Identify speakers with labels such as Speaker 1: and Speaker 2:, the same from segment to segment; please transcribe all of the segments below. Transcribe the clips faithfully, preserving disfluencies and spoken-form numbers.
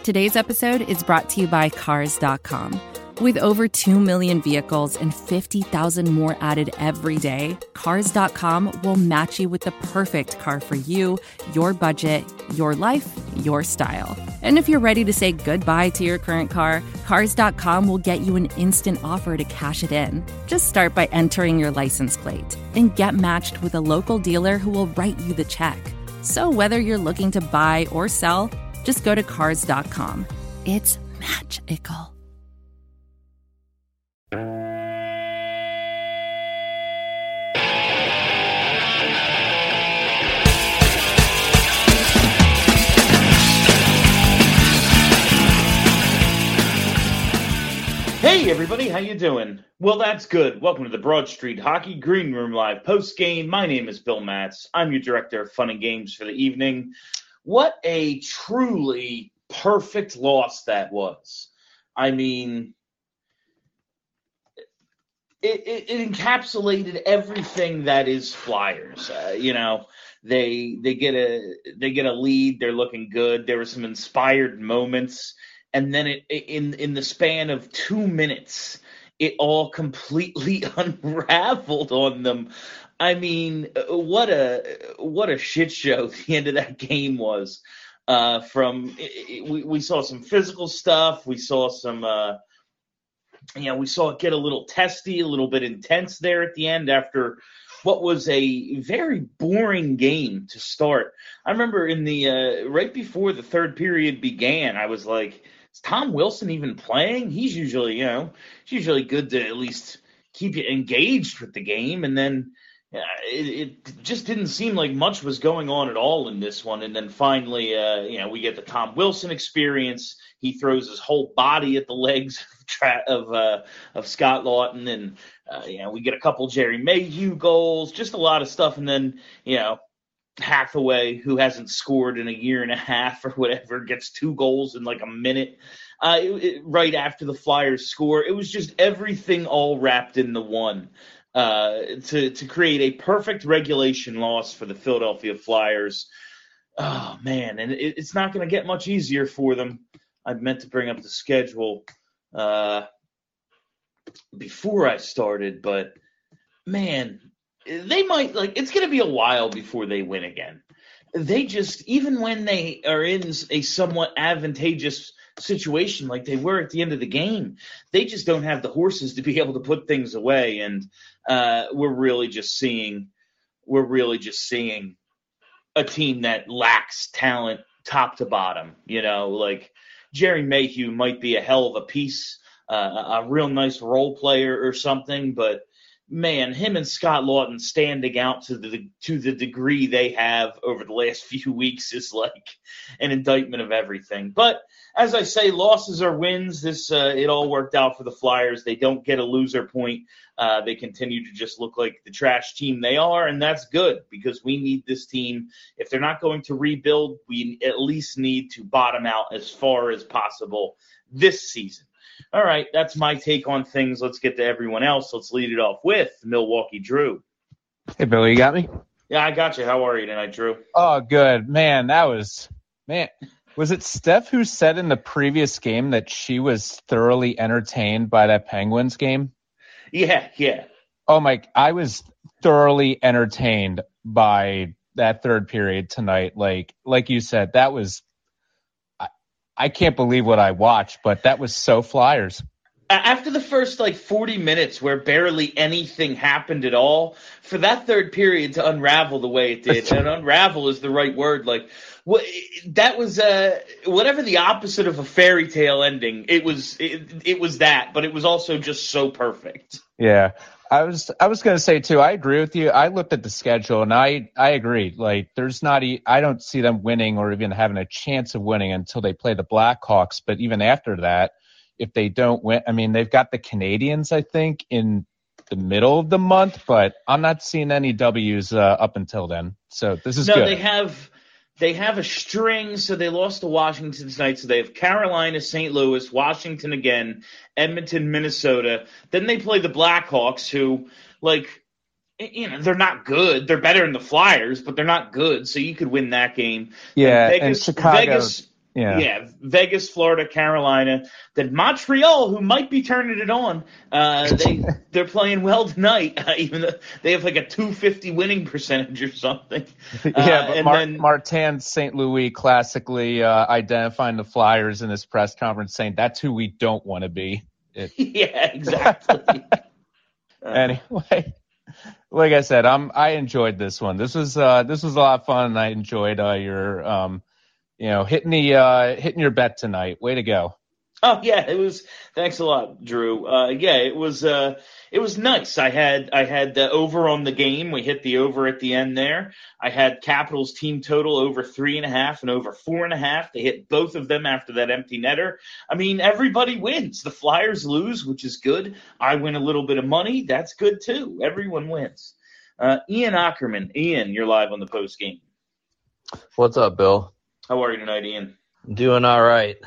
Speaker 1: Today's episode is brought to you by Cars dot com. With over two million vehicles and fifty thousand more added every day, Cars dot com will match you with the perfect car for you, your budget, your life, your style. And if you're ready to say goodbye to your current car, Cars dot com will get you an instant offer to cash it in. Just start by entering your license plate and get matched with a local dealer who will write you the check. So whether you're looking to buy or sell, just go to Cars dot com. It's magical.
Speaker 2: Hey everybody, how you doing? Well, that's good. Welcome to the Broad Street Hockey Green Room Live post-game. My name is Bill Matz. I'm your director of fun and games for the evening. What a truly perfect loss that was. I mean, it, it, it encapsulated everything that is Flyers. Uh, you know, they they get a they get a lead. They're looking good. There were some inspired moments. And then it, in in the span of two minutes, it all completely unraveled on them. I mean, what a what a shit show the end of that game was. Uh, from it, we we saw some physical stuff. We saw some, uh, you know, we saw it get a little testy, a little bit intense there at the end after what was a very boring game to start. I remember in the uh, right before the third period began, I was like, is Tom Wilson even playing? He's usually, you know, it's usually good to at least keep you engaged with the game. And then uh, it, it just didn't seem like much was going on at all in this one. And then finally, uh, you know, we get the Tom Wilson experience. He throws his whole body at the legs of tra- of, uh, of Scott Laughton. And, uh, you know, we get a couple Jerry Mayhew goals, just a lot of stuff. And then, you know, Hathaway, who hasn't scored in a year and a half or whatever, gets two goals in like a minute uh, it, it, right after the Flyers score. It was just everything all wrapped in the one uh, to, to create a perfect regulation loss for the Philadelphia Flyers. Oh, man, and it, it's not going to get much easier for them. I meant to bring up the schedule uh, before I started, but, man – they might, like, it's going to be a while before they win again. They just, even when they are in a somewhat advantageous situation like they were at the end of the game, they just don't have the horses to be able to put things away. And uh, we're really just seeing, we're really just seeing a team that lacks talent top to bottom. You know, like Jerry Mayhew might be a hell of a piece, uh, a real nice role player or something, but man, him and Scott Laughton standing out to the to the degree they have over the last few weeks is like an indictment of everything. But as I say, losses are wins. This uh, it all worked out for the Flyers. They don't get a loser point. Uh, they continue to just look like the trash team they are, and that's good because we need this team. If they're not going to rebuild, we at least need to bottom out as far as possible this season. All right, that's my take on things. Let's get to everyone else. Let's lead it off with Milwaukee Drew.
Speaker 3: Hey, Billy, you got me?
Speaker 2: Yeah, I got you. How are you tonight, Drew?
Speaker 3: Oh, good. Man, that was – man, was it Steph who said in the previous game that she was thoroughly entertained by that Penguins game?
Speaker 2: Yeah, yeah.
Speaker 3: Oh, my – I was thoroughly entertained by that third period tonight. Like, like you said, that was – I can't believe what I watched, but that was so Flyers.
Speaker 2: After the first, like, forty minutes where barely anything happened at all, for that third period to unravel the way it did, and unravel is the right word, like, what, that was, uh, whatever the opposite of a fairy tale ending, it was, it, it was that, but it was also just so perfect.
Speaker 3: Yeah. I was I was going to say, too, I agree with you. I looked at the schedule, and I, I agree. Like, there's not – I don't see them winning or even having a chance of winning until they play the Blackhawks. But even after that, if they don't win – I mean, they've got the Canadians, I think, in the middle of the month. But I'm not seeing any W's uh, up until then. So this is
Speaker 2: no,
Speaker 3: good.
Speaker 2: No, they have – They have a string, so they lost to Washington tonight. So they have Carolina, Saint Louis, Washington again, Edmonton, Minnesota. Then they play the Blackhawks, who, like, you know, they're not good. They're better than the Flyers, but they're not good. So you could win that game.
Speaker 3: Yeah,
Speaker 2: and Vegas,
Speaker 3: and Chicago.
Speaker 2: Vegas,
Speaker 3: Yeah.
Speaker 2: Yeah, Vegas, Florida, Carolina. Then Montreal, who might be turning it on. Uh, they they're playing well tonight, uh, even though they have like a two fifty winning percentage or something. Uh,
Speaker 3: yeah, but
Speaker 2: and
Speaker 3: Mar-
Speaker 2: then
Speaker 3: Martin Saint Louis classically uh, identifying the Flyers in his press conference, saying that's who we don't want to be. It-
Speaker 2: yeah, exactly. uh,
Speaker 3: anyway, like I said, I'm I enjoyed this one. This was uh, this was a lot of fun. And I enjoyed uh, your um, you know hitting the uh, hitting your bet tonight. Way to go.
Speaker 2: Oh yeah, it was. Thanks a lot, Drew. Uh, yeah, it was. Uh, it was nice. I had I had the over on the game. We hit the over at the end there. I had Capitals team total over three and a half and over four and a half. They hit both of them after that empty netter. I mean, everybody wins. The Flyers lose, which is good. I win a little bit of money. That's good too. Everyone wins. Uh, Ian Ackerman. Ian, you're live on the post game.
Speaker 4: What's up, Bill?
Speaker 2: How are you tonight, Ian?
Speaker 4: Doing all right.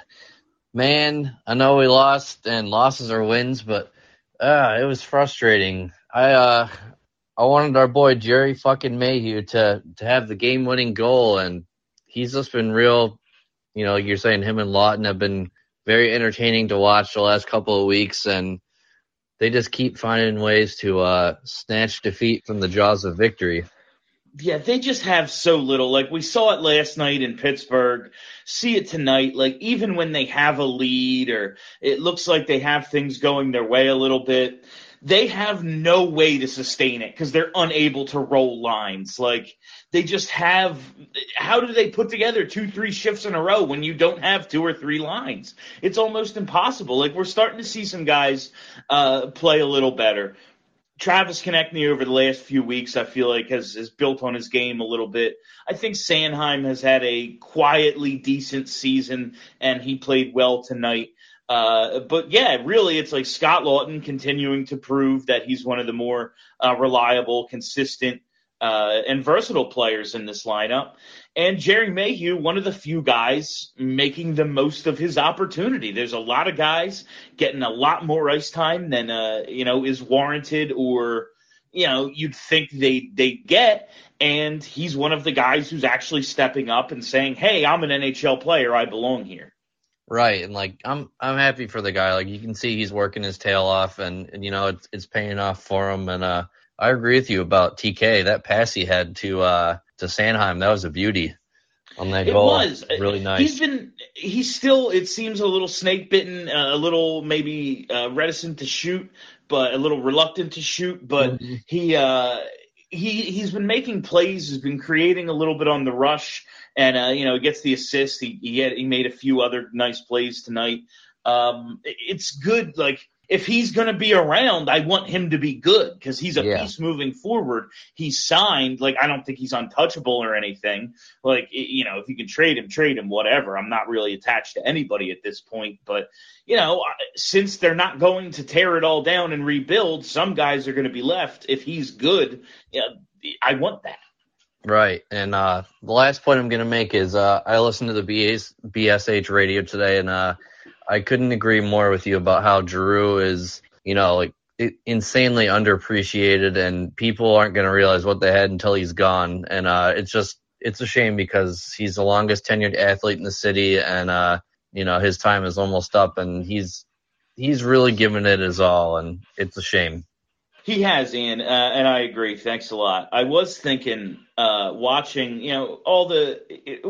Speaker 4: Man, I know we lost, and losses are wins, but uh, it was frustrating. I uh, I wanted our boy Jerry fucking Mayhew to, to have the game-winning goal, and he's just been real, you know, like you're saying, him and Lawton have been very entertaining to watch the last couple of weeks, and they just keep finding ways to uh, snatch defeat from the jaws of victory.
Speaker 2: Yeah, they just have so little. Like, we saw it last night in Pittsburgh, see it tonight. Like, even when they have a lead or it looks like they have things going their way a little bit, they have no way to sustain it because they're unable to roll lines. Like, they just have – how do they put together two, three shifts in a row when you don't have two or three lines? It's almost impossible. Like, we're starting to see some guys uh, play a little better. Travis Konechny over the last few weeks, I feel like, has, has built on his game a little bit. I think Sanheim has had a quietly decent season, and he played well tonight. Uh, but, yeah, really, it's like Scott Lawton continuing to prove that he's one of the more uh, reliable, consistent, uh, and versatile players in this lineup. And Jerry Mayhew, one of the few guys making the most of his opportunity. There's a lot of guys getting a lot more ice time than, uh, you know, is warranted or, you know, you'd think they they get. And he's one of the guys who's actually stepping up and saying, hey, I'm an N H L player. I belong here.
Speaker 4: Right, and like I'm I'm happy for the guy. Like you can see he's working his tail off, and, and you know it's it's paying off for him. And uh, I agree with you about T K. That pass he had to uh, to Sanheim, that was a beauty on that
Speaker 2: it
Speaker 4: goal.
Speaker 2: Was
Speaker 4: really nice.
Speaker 2: He's been he's still, it seems, a little snake bitten, uh, a little maybe uh, reticent to shoot, but a little reluctant to shoot. But
Speaker 4: mm-hmm.
Speaker 2: he uh, he he's been making plays. He's been creating a little bit on the rush. And, uh, you know, he gets the assist. He he, had, he made a few other nice plays tonight. Um, it's good. Like, if he's going to be around, I want him to be good because he's a
Speaker 4: yeah.
Speaker 2: piece moving forward. He's signed. Like, I don't think he's untouchable or anything. Like, you know, if you can trade him, trade him, whatever. I'm not really attached to anybody at this point. But, you know, since they're not going to tear it all down and rebuild, some guys are going to be left. If he's good, you know, I want that.
Speaker 4: Right, and uh, the last point I'm going to make is uh, I listened to the B S, B S H radio today, and uh, I couldn't agree more with you about how Giroux is, you know, like it, insanely underappreciated, and people aren't going to realize what they had until he's gone. And uh, it's just, it's a shame because he's the longest tenured athlete in the city, and uh, you know his time is almost up, and he's he's really given it his all, and it's a shame.
Speaker 2: He has, Ian, uh, and I agree. Thanks a lot. I was thinking, uh, watching, you know, all the it,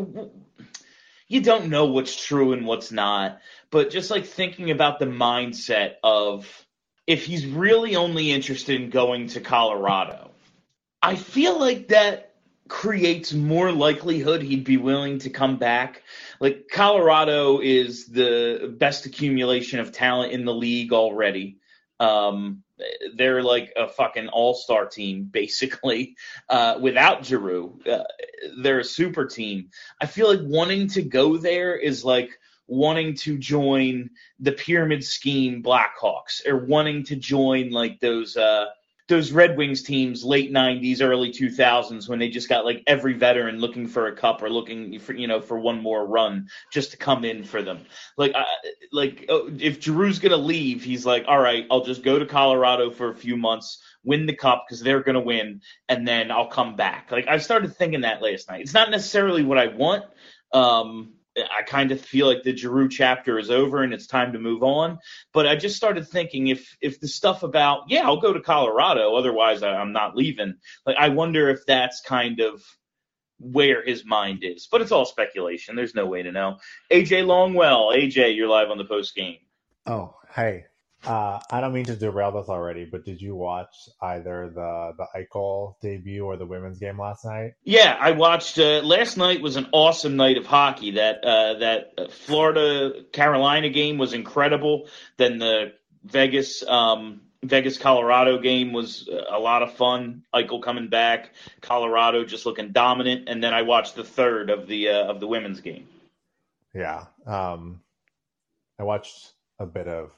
Speaker 2: you don't know what's true and what's not, but just like thinking about the mindset of if he's really only interested in going to Colorado, I feel like that creates more likelihood he'd be willing to come back. Like, Colorado is the best accumulation of talent in the league already. Um, they're like a fucking all-star team, basically, uh, without Giroux. Uh, they're a super team. I feel like wanting to go there is like wanting to join the pyramid scheme Blackhawks or wanting to join like those uh, those Red Wings teams late nineties, early two thousands when they just got like every veteran looking for a cup or looking for, you know, for one more run just to come in for them. Like, uh, like oh, if Giroux's going to leave, he's like, all right, I'll just go to Colorado for a few months, win the cup because they're going to win, and then I'll come back. Like, I started thinking that last night. It's not necessarily what I want. Um, I kind of feel like the Giroux chapter is over and it's time to move on. But I just started thinking if if the stuff about, yeah, I'll go to Colorado, otherwise I, I'm not leaving. Like, I wonder if that's kind of where his mind is. But it's all speculation. There's no way to know. A J Longwell. A J, you're live on the post game.
Speaker 5: Oh, hey. Uh, I don't mean to derail this already, but did you watch either the the Eichel debut or the women's game last night?
Speaker 2: Yeah, I watched. Uh, last night was an awesome night of hockey. That uh, that Florida Carolina game was incredible. Then the Vegas um, Vegas Colorado game was a lot of fun. Eichel coming back, Colorado just looking dominant, and then I watched the third of the uh, of the women's game.
Speaker 5: Yeah, um, I watched a bit of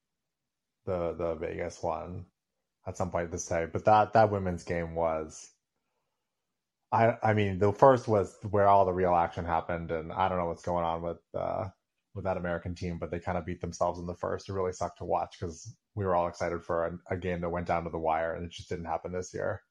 Speaker 5: the the Vegas one at some point this day, but that that women's game was, I I mean the first was where all the real action happened, and I don't know what's going on with uh with that American team, but they kind of beat themselves in the first. It really sucked to watch because we were all excited for a, a game that went down to the wire, and it just didn't happen this year.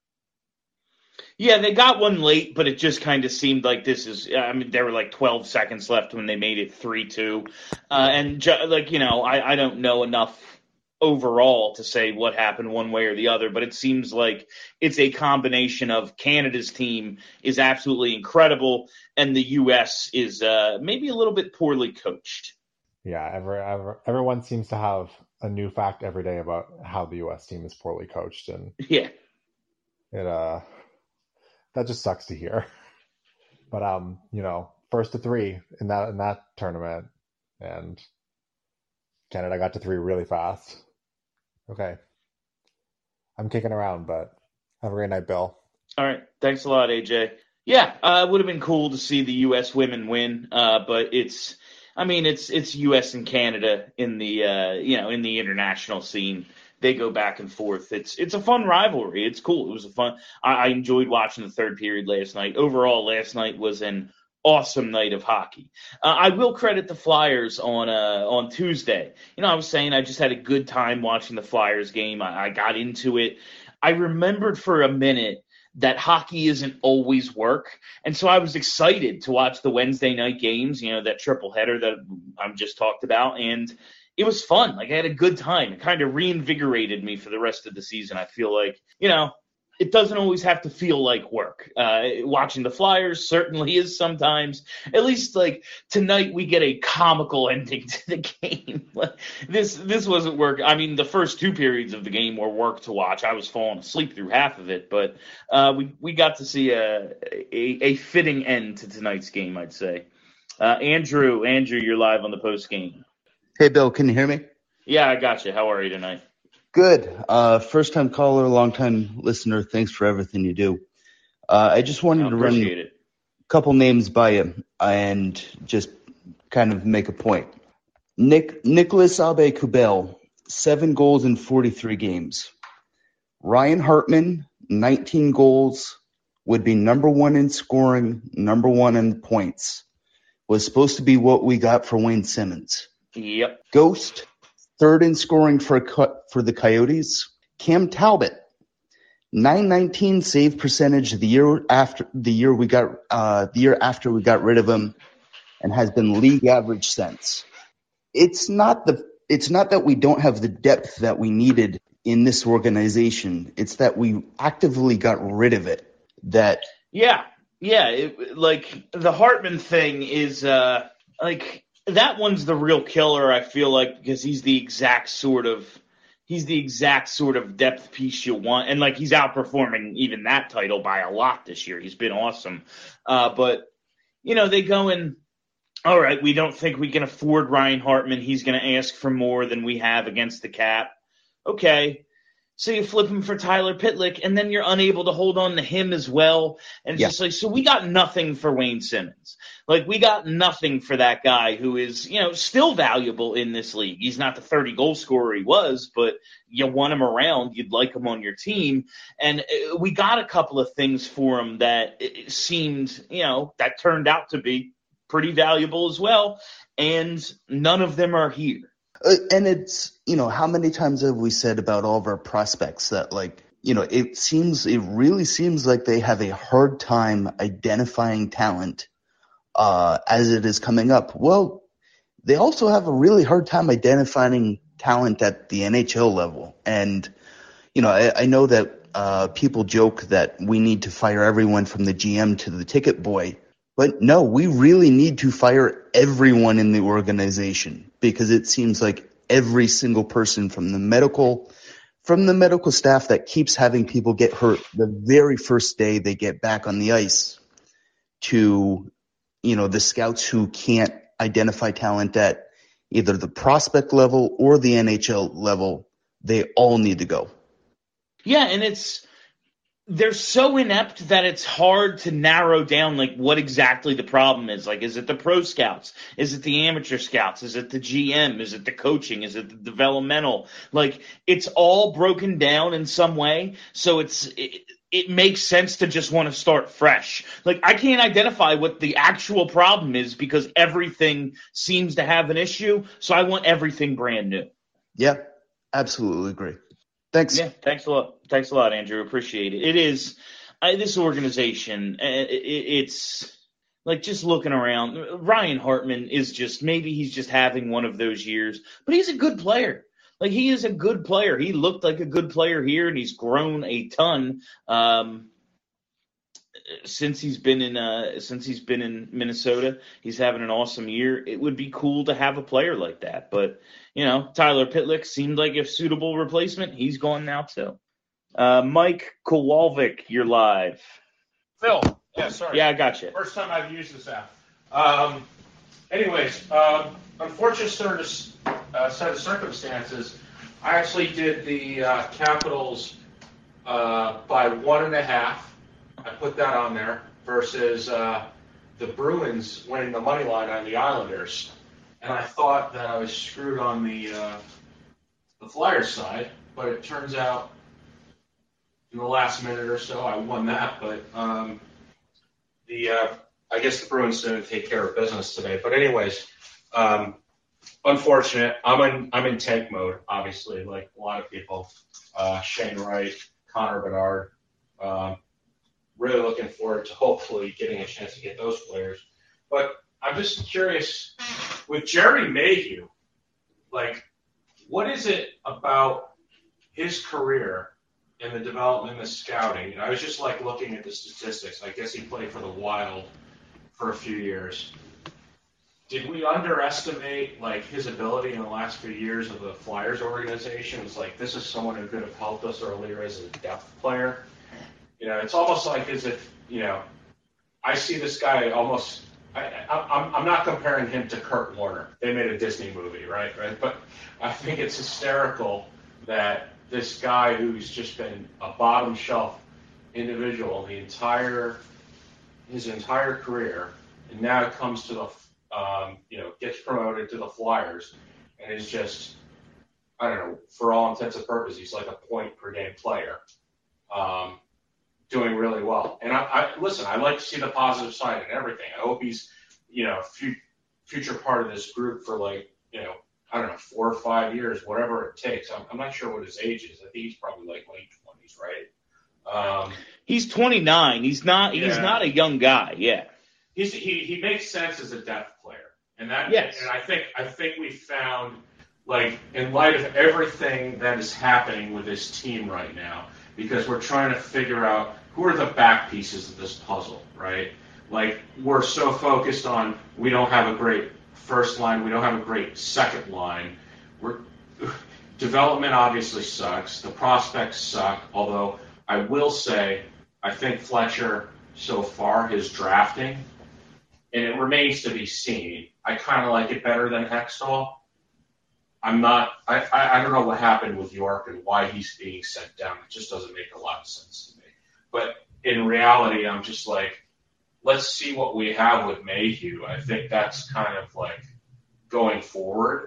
Speaker 2: Yeah, they got one late, but it just kind of seemed like this is, I mean, there were like twelve seconds left when they made it three two. Uh, and, ju- like, you know, I, I don't know enough overall to say what happened one way or the other, but it seems like it's a combination of Canada's team is absolutely incredible and the U S is uh, maybe a little bit poorly coached.
Speaker 5: Yeah, every, every, everyone seems to have a new fact every day about how the U S team is poorly coached, and
Speaker 2: yeah,
Speaker 5: it uh that just sucks to hear. But um, you know, first to three in that in that tournament, and Canada got to three really fast. Okay. I'm kicking around, but have a great night, Bill.
Speaker 2: All right. Thanks a lot, A J. Yeah, uh, it would have been cool to see the U S women win, uh, but it's, I mean, it's it's U S and Canada in the, uh, you know, in the international scene. They go back and forth. It's it's a fun rivalry. It's cool. It was a fun. I, I enjoyed watching the third period last night. Overall, last night was an awesome night of hockey. Uh, I will credit the Flyers on uh, on Tuesday. You know, I was saying I just had a good time watching the Flyers game. I, I got into it. I remembered for a minute that hockey isn't always work, and so I was excited to watch the Wednesday night games. You know, that triple header that I'm just talked about, and it was fun. Like, I had a good time. It kind of reinvigorated me for the rest of the season. I feel like, you know, it doesn't always have to feel like work. Uh, watching the Flyers certainly is sometimes. At least, like, tonight we get a comical ending to the game. this this wasn't work. I mean, the first two periods of the game were work to watch. I was falling asleep through half of it, but uh, we, we got to see a, a, a fitting end to tonight's game, I'd say. Uh, Andrew, Andrew, you're live on the post game.
Speaker 6: Hey, Bill, can you hear me?
Speaker 2: Yeah, I got you. How are you tonight?
Speaker 6: Good. Uh, first time caller, long time listener. Thanks for everything you do. Uh, I just wanted
Speaker 2: I
Speaker 6: to run
Speaker 2: it.
Speaker 6: a couple names by you and just kind of make a point. Nick Nicholas Aube-Kubel, seven goals in forty-three games. Ryan Hartman, nineteen goals, would be number one in scoring, number one in points. Was supposed to be what we got for Wayne Simmons.
Speaker 2: Yep.
Speaker 6: Ghost, third in scoring for for the Coyotes. Cam Talbot, nine nineteen save percentage the year after the year we got uh, the year after we got rid of him, and has been league average since. It's not the it's not that we don't have the depth that we needed in this organization. It's that we actively got rid of it. That
Speaker 2: yeah, yeah. It, like the Hartman thing is uh, like. That one's the real killer, I feel like, because he's the exact sort of he's the exact sort of depth piece you want, and like he's outperforming even that title by a lot this year. He's been awesome, uh, but you know they go in. All right, we don't think we can afford Ryan Hartman. He's going to ask for more than we have against the cap. Okay. So you flip him for Tyler Pitlick, and then you're unable to hold on to him as well. And it's yeah. just like, so we got nothing for Wayne Simmons. Like, we got nothing for that guy who is, you know, still valuable in this league. He's not the thirty-goal scorer he was, but you want him around. You'd like him on your team. And we got a couple of things for him that it seemed, you know, that turned out to be pretty valuable as well. And none of them are here.
Speaker 6: Uh, and it's, you know, how many times have we said about all of our prospects that, like, you know, it seems, it really seems like they have a hard time identifying talent uh, as it is coming up. Well, they also have a really hard time identifying talent at the N H L level. And, you know, I, I know that uh, people joke that we need to fire everyone from the G M to the ticket boy. But no, we really need to fire everyone in the organization, because it seems like every single person from the medical from the medical staff that keeps having people get hurt the very first day they get back on the ice, to, you know, the scouts who can't identify talent at either the prospect level or the N H L level, they all need to go.
Speaker 2: Yeah, and it's they're so inept that it's hard to narrow down like what exactly the problem is. Like, is it the pro scouts? Is it the amateur scouts? Is it the G M? Is it the coaching? Is it the developmental? Like, it's all broken down in some way. So it's it, it makes sense to just want to start fresh. Like, I can't identify what the actual problem is because everything seems to have an issue. So I want everything brand new.
Speaker 6: Yeah, absolutely agree. Thanks.
Speaker 2: Yeah, thanks a lot. Thanks a lot, Andrew. Appreciate it. It is I, this organization. It, it, it's like just looking around. Ryan Hartman is just maybe he's just having one of those years, but he's a good player. Like, he is a good player. He looked like a good player here, and he's grown a ton um, since he's been in uh, since he's been in Minnesota. He's having an awesome year. It would be cool to have a player like that, but. You know, Tyler Pitlick seemed like a suitable replacement. He's gone now, too. Uh, Mike Kowalczyk, you're live.
Speaker 7: Phil, yeah, sorry.
Speaker 2: Yeah, I got you.
Speaker 7: First time I've used this app. Um, anyways, um, unfortunate sort of, uh, set of circumstances, I actually did the uh, Capitals uh, by one and a half. I put that on there versus uh, the Bruins winning the money line on the Islanders. And I thought that I was screwed on the uh, the Flyers side, but it turns out in the last minute or so I won that. But um, the uh, I guess the Bruins didn't take care of business today. But anyways, um, unfortunate. I'm in I'm in tank mode, obviously, like a lot of people. Uh, Shane Wright, Connor Bedard. Um, really looking forward to hopefully getting a chance to get those players. But I'm just curious, with Jerry Mayhew, like, what is it about his career and the development and the scouting? And I was just, like, looking at the statistics. I guess he played for the Wild for a few years. Did we underestimate, like, his ability in the last few years of the Flyers organization? It's like, this is someone who could have helped us earlier as a depth player. You know, it's almost like as if, you know, I see this guy almost – I, I, I'm not comparing him to Kurt Warner. They made a Disney movie, right? Right. But I think it's hysterical that this guy who's just been a bottom shelf individual the entire his entire career, and now comes to the um, you know gets promoted to the Flyers, and is just I don't know for all intents and purposes he's like a point per game player. Um, doing really well. And I, I listen, I like to see the positive side in everything. I hope he's, you know, f- future part of this group for like, you know, I don't know, four or five years, whatever it takes. I'm, I'm not sure what his age is. I think he's probably like late twenties, right? Um,
Speaker 2: he's twenty-nine. He's not, he's
Speaker 7: yeah.
Speaker 2: not a young guy. Yeah.
Speaker 7: He's, he, he makes sense as a depth player. And that,
Speaker 2: yes.
Speaker 7: and I think, I think we found like in light of everything that is happening with this team right now, because we're trying to figure out who are the back pieces of this puzzle, right? Like, we're so focused on we don't have a great first line, we don't have a great second line. We're development obviously sucks. The prospects suck, although I will say I think Fletcher so far, his drafting, and it remains to be seen. I kind of like it better than Hextall. I'm not I, – I, I don't know what happened with York and why he's being sent down. It just doesn't make a lot of sense to me. But in reality, I'm just like, let's see what we have with Mayhew. I think that's kind of like going forward,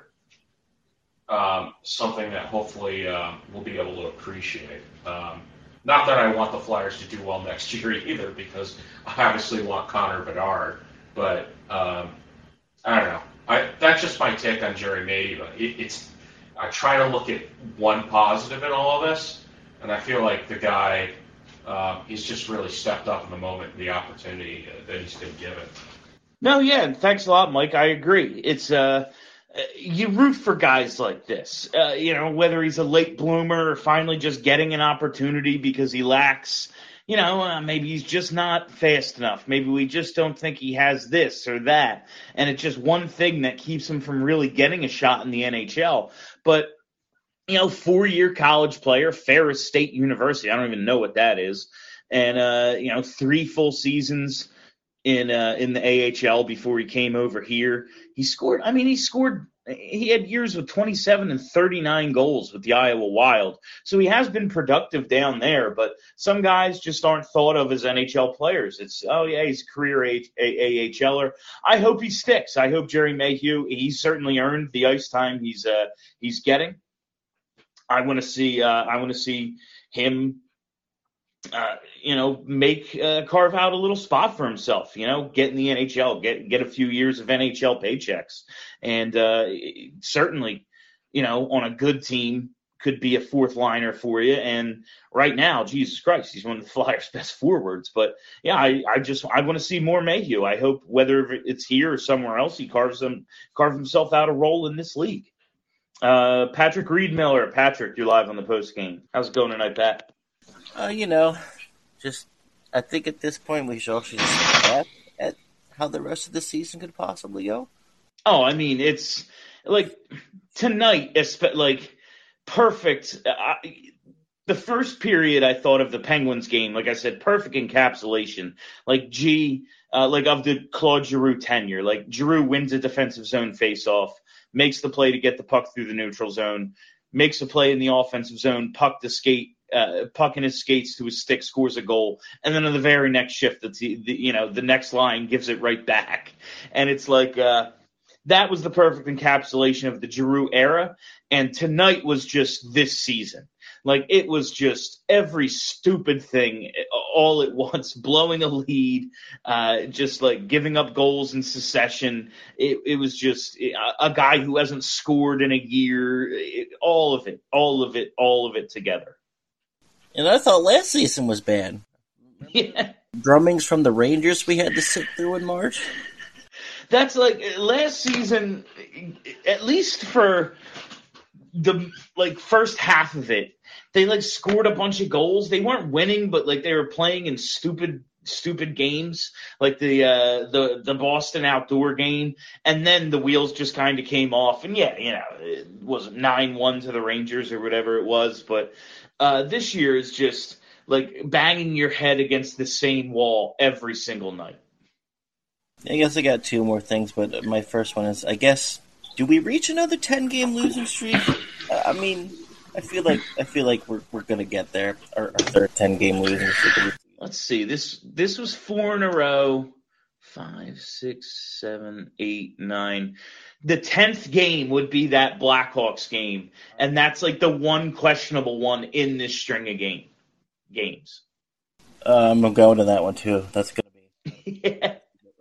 Speaker 7: um, something that hopefully um, we'll be able to appreciate. Um, not that I want the Flyers to do well next year either, because I obviously want Connor Bedard. But um, I don't know. I, that's just my take on Jerry Mayhew. It, it's I try to look at one positive in all of this, and I feel like the guy – Um, he's just really stepped up in the moment, the opportunity uh, that he's been given.
Speaker 2: No, yeah, and thanks a lot, Mike. I agree. It's uh, you root for guys like this. Uh, you know, whether he's a late bloomer or finally just getting an opportunity because he lacks. You know, uh, maybe he's just not fast enough. Maybe we just don't think he has this or that, and it's just one thing that keeps him from really getting a shot in the N H L. But you know, four-year college player, Ferris State University. I don't even know what that is. And, uh, you know, three full seasons in uh, in the A H L before he came over here. He scored, I mean, he scored, he had years with twenty-seven and thirty-nine goals with the Iowa Wild. So he has been productive down there, but some guys just aren't thought of as N H L players. It's, oh, yeah, he's a career AHLer. I hope he sticks. I hope Jerry Mayhew, he's certainly earned the ice time he's uh, he's getting. I want to see. Uh, I want to see him, uh, you know, make uh, carve out a little spot for himself. You know, get in the N H L, get get a few years of N H L paychecks, and uh, certainly, you know, on a good team, could be a fourth liner for you. And right now, Jesus Christ, he's one of the Flyers' best forwards. But yeah, I, I just I want to see more Mayhew. I hope whether it's here or somewhere else, he carves him carve himself out a role in this league. Uh, Patrick Reed Miller. Patrick, you're live on the post game. How's it going tonight, Pat?
Speaker 8: Uh, you know, just I think at this point we should also just look at how the rest of the season could possibly go.
Speaker 2: Oh, I mean, it's like tonight, like perfect. I, the first period I thought of the Penguins game, like I said, perfect encapsulation. Like G, uh, like of the Claude Giroux tenure. Like Giroux wins a defensive zone faceoff, makes the play to get the puck through the neutral zone, makes a play in the offensive zone, puck to skate, uh, puck in his skates to his stick, scores a goal, and then on the very next shift, the, the you know the next line gives it right back, and it's like uh, that was the perfect encapsulation of the Giroux era, and tonight was just this season. Like, it was just every stupid thing all at once, blowing a lead, uh, just like giving up goals in succession. It, it was just a, a guy who hasn't scored in a year. It, all of it, all of it, all of it together.
Speaker 8: And I thought last season was bad.
Speaker 2: Yeah.
Speaker 8: Drummings from the Rangers we had to sit through in March.
Speaker 2: That's like last season, at least for the like first half of it. They like scored a bunch of goals. They weren't winning, but like they were playing in stupid, stupid games, like the uh, the the Boston outdoor game. And then the wheels just kind of came off. And yeah, you know, it was nine one to the Rangers or whatever it was. But uh, this year is just like banging your head against the same wall every single night.
Speaker 8: I guess I got two more things, but my first one is, I guess, do we reach another ten game losing streak? I mean, I feel like I feel like we're we're gonna get there. Our, our third ten game losing streak.
Speaker 2: Let's see. This this was four in a row. Five, six, seven, eight, nine. The tenth game would be that Blackhawks game, and that's like the one questionable one in this string of game games.
Speaker 8: Um, I'm going to that one too. That's gonna be.
Speaker 2: Yeah.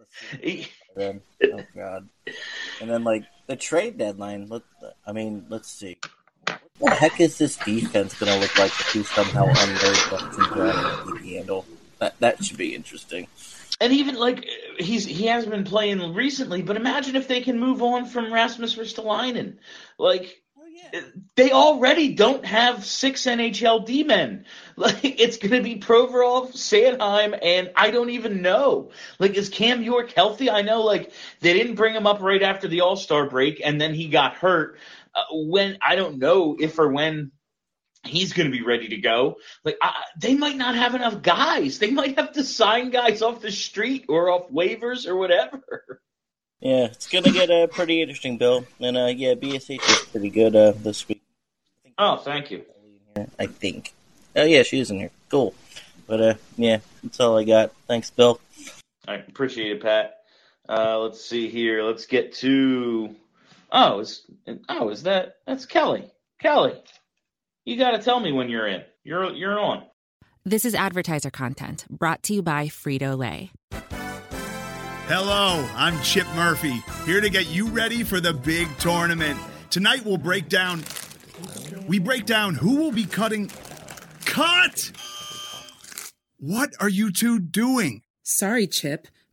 Speaker 8: Oh God. And then like the trade deadline. Let I mean, let's see. What the heck is this defense going to look like if we somehow unload the handle? That that should be interesting.
Speaker 2: And even like he's he hasn't been playing recently, but imagine if they can move on from Rasmus Ristolainen. Like
Speaker 8: oh, yeah.
Speaker 2: they already don't have six N H L D-men. Like it's going to be Provorov, Sanheim, and I don't even know. Like is Cam York healthy? I know like they didn't bring him up right after the All-Star break, and then he got hurt. Uh, when I don't know if or when he's going to be ready to go. Like I, they might not have enough guys. They might have to sign guys off the street or off waivers or whatever.
Speaker 8: Yeah, it's going to get uh, pretty interesting, Bill. And uh, yeah, B S H is pretty good uh, this week.
Speaker 2: I think oh, thank you.
Speaker 8: I think. Oh yeah, she is in here. Cool. But uh, yeah, that's all I got. Thanks, Bill.
Speaker 2: I appreciate it, Pat. Uh, let's see here. Let's get to. Oh, is oh is that that's Kelly? Kelly, you got to tell me when you're in. You're you're on.
Speaker 1: This is advertiser content brought to you by Frito-Lay.
Speaker 9: Hello, I'm Chip Murphy, here to get you ready for the big tournament. Tonight we'll break down. We break down who will be cutting. Cut! What are you two doing?
Speaker 10: Sorry, Chip.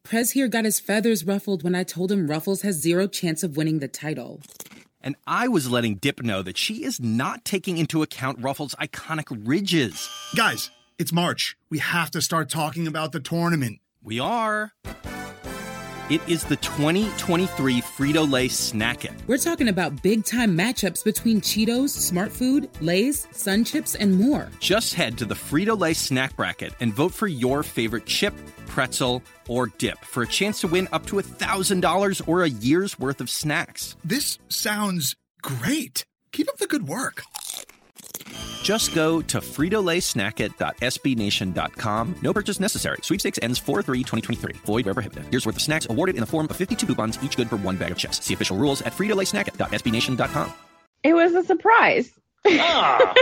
Speaker 10: Prez here got his feathers ruffled when I told him Ruffles has zero chance of winning the title.
Speaker 11: And I was letting Dip know that she is not taking into account Ruffles' iconic ridges.
Speaker 9: Guys, it's March. We have to start talking about the tournament.
Speaker 11: We are. It is the twenty twenty-three Frito-Lay Snack It.
Speaker 10: We're talking about big-time matchups between Cheetos, Smart Food, Lay's, Sun Chips, and more.
Speaker 11: Just head to the Frito-Lay Snack Bracket and vote for your favorite chip, pretzel, or dip for a chance to win up to one thousand dollars or a year's worth of snacks.
Speaker 9: This sounds great. Keep up the good work.
Speaker 11: Just go to Frito Lay Snack It dot S B Nation dot com. No purchase necessary. Sweepstakes ends four three twenty twenty-three. Void where prohibited. Here's worth of snacks awarded in the form of fifty-two coupons, each good for one bag of chips. See official rules at Frito Lay Snack It dot S B Nation dot com.
Speaker 12: It was a surprise.
Speaker 2: Ah.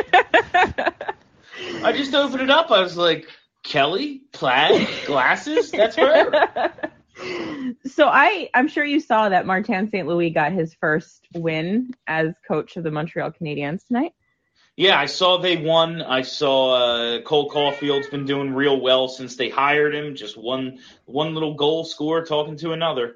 Speaker 2: I just opened it up. I was like, Kelly, plaid, glasses, that's her.
Speaker 12: So I, I'm sure you saw that Martin Saint Louis got his first win as coach of the Montreal Canadiens tonight.
Speaker 2: Yeah, I saw they won. I saw uh, Cole Caulfield's been doing real well since they hired him. Just one one little goal scorer talking to another.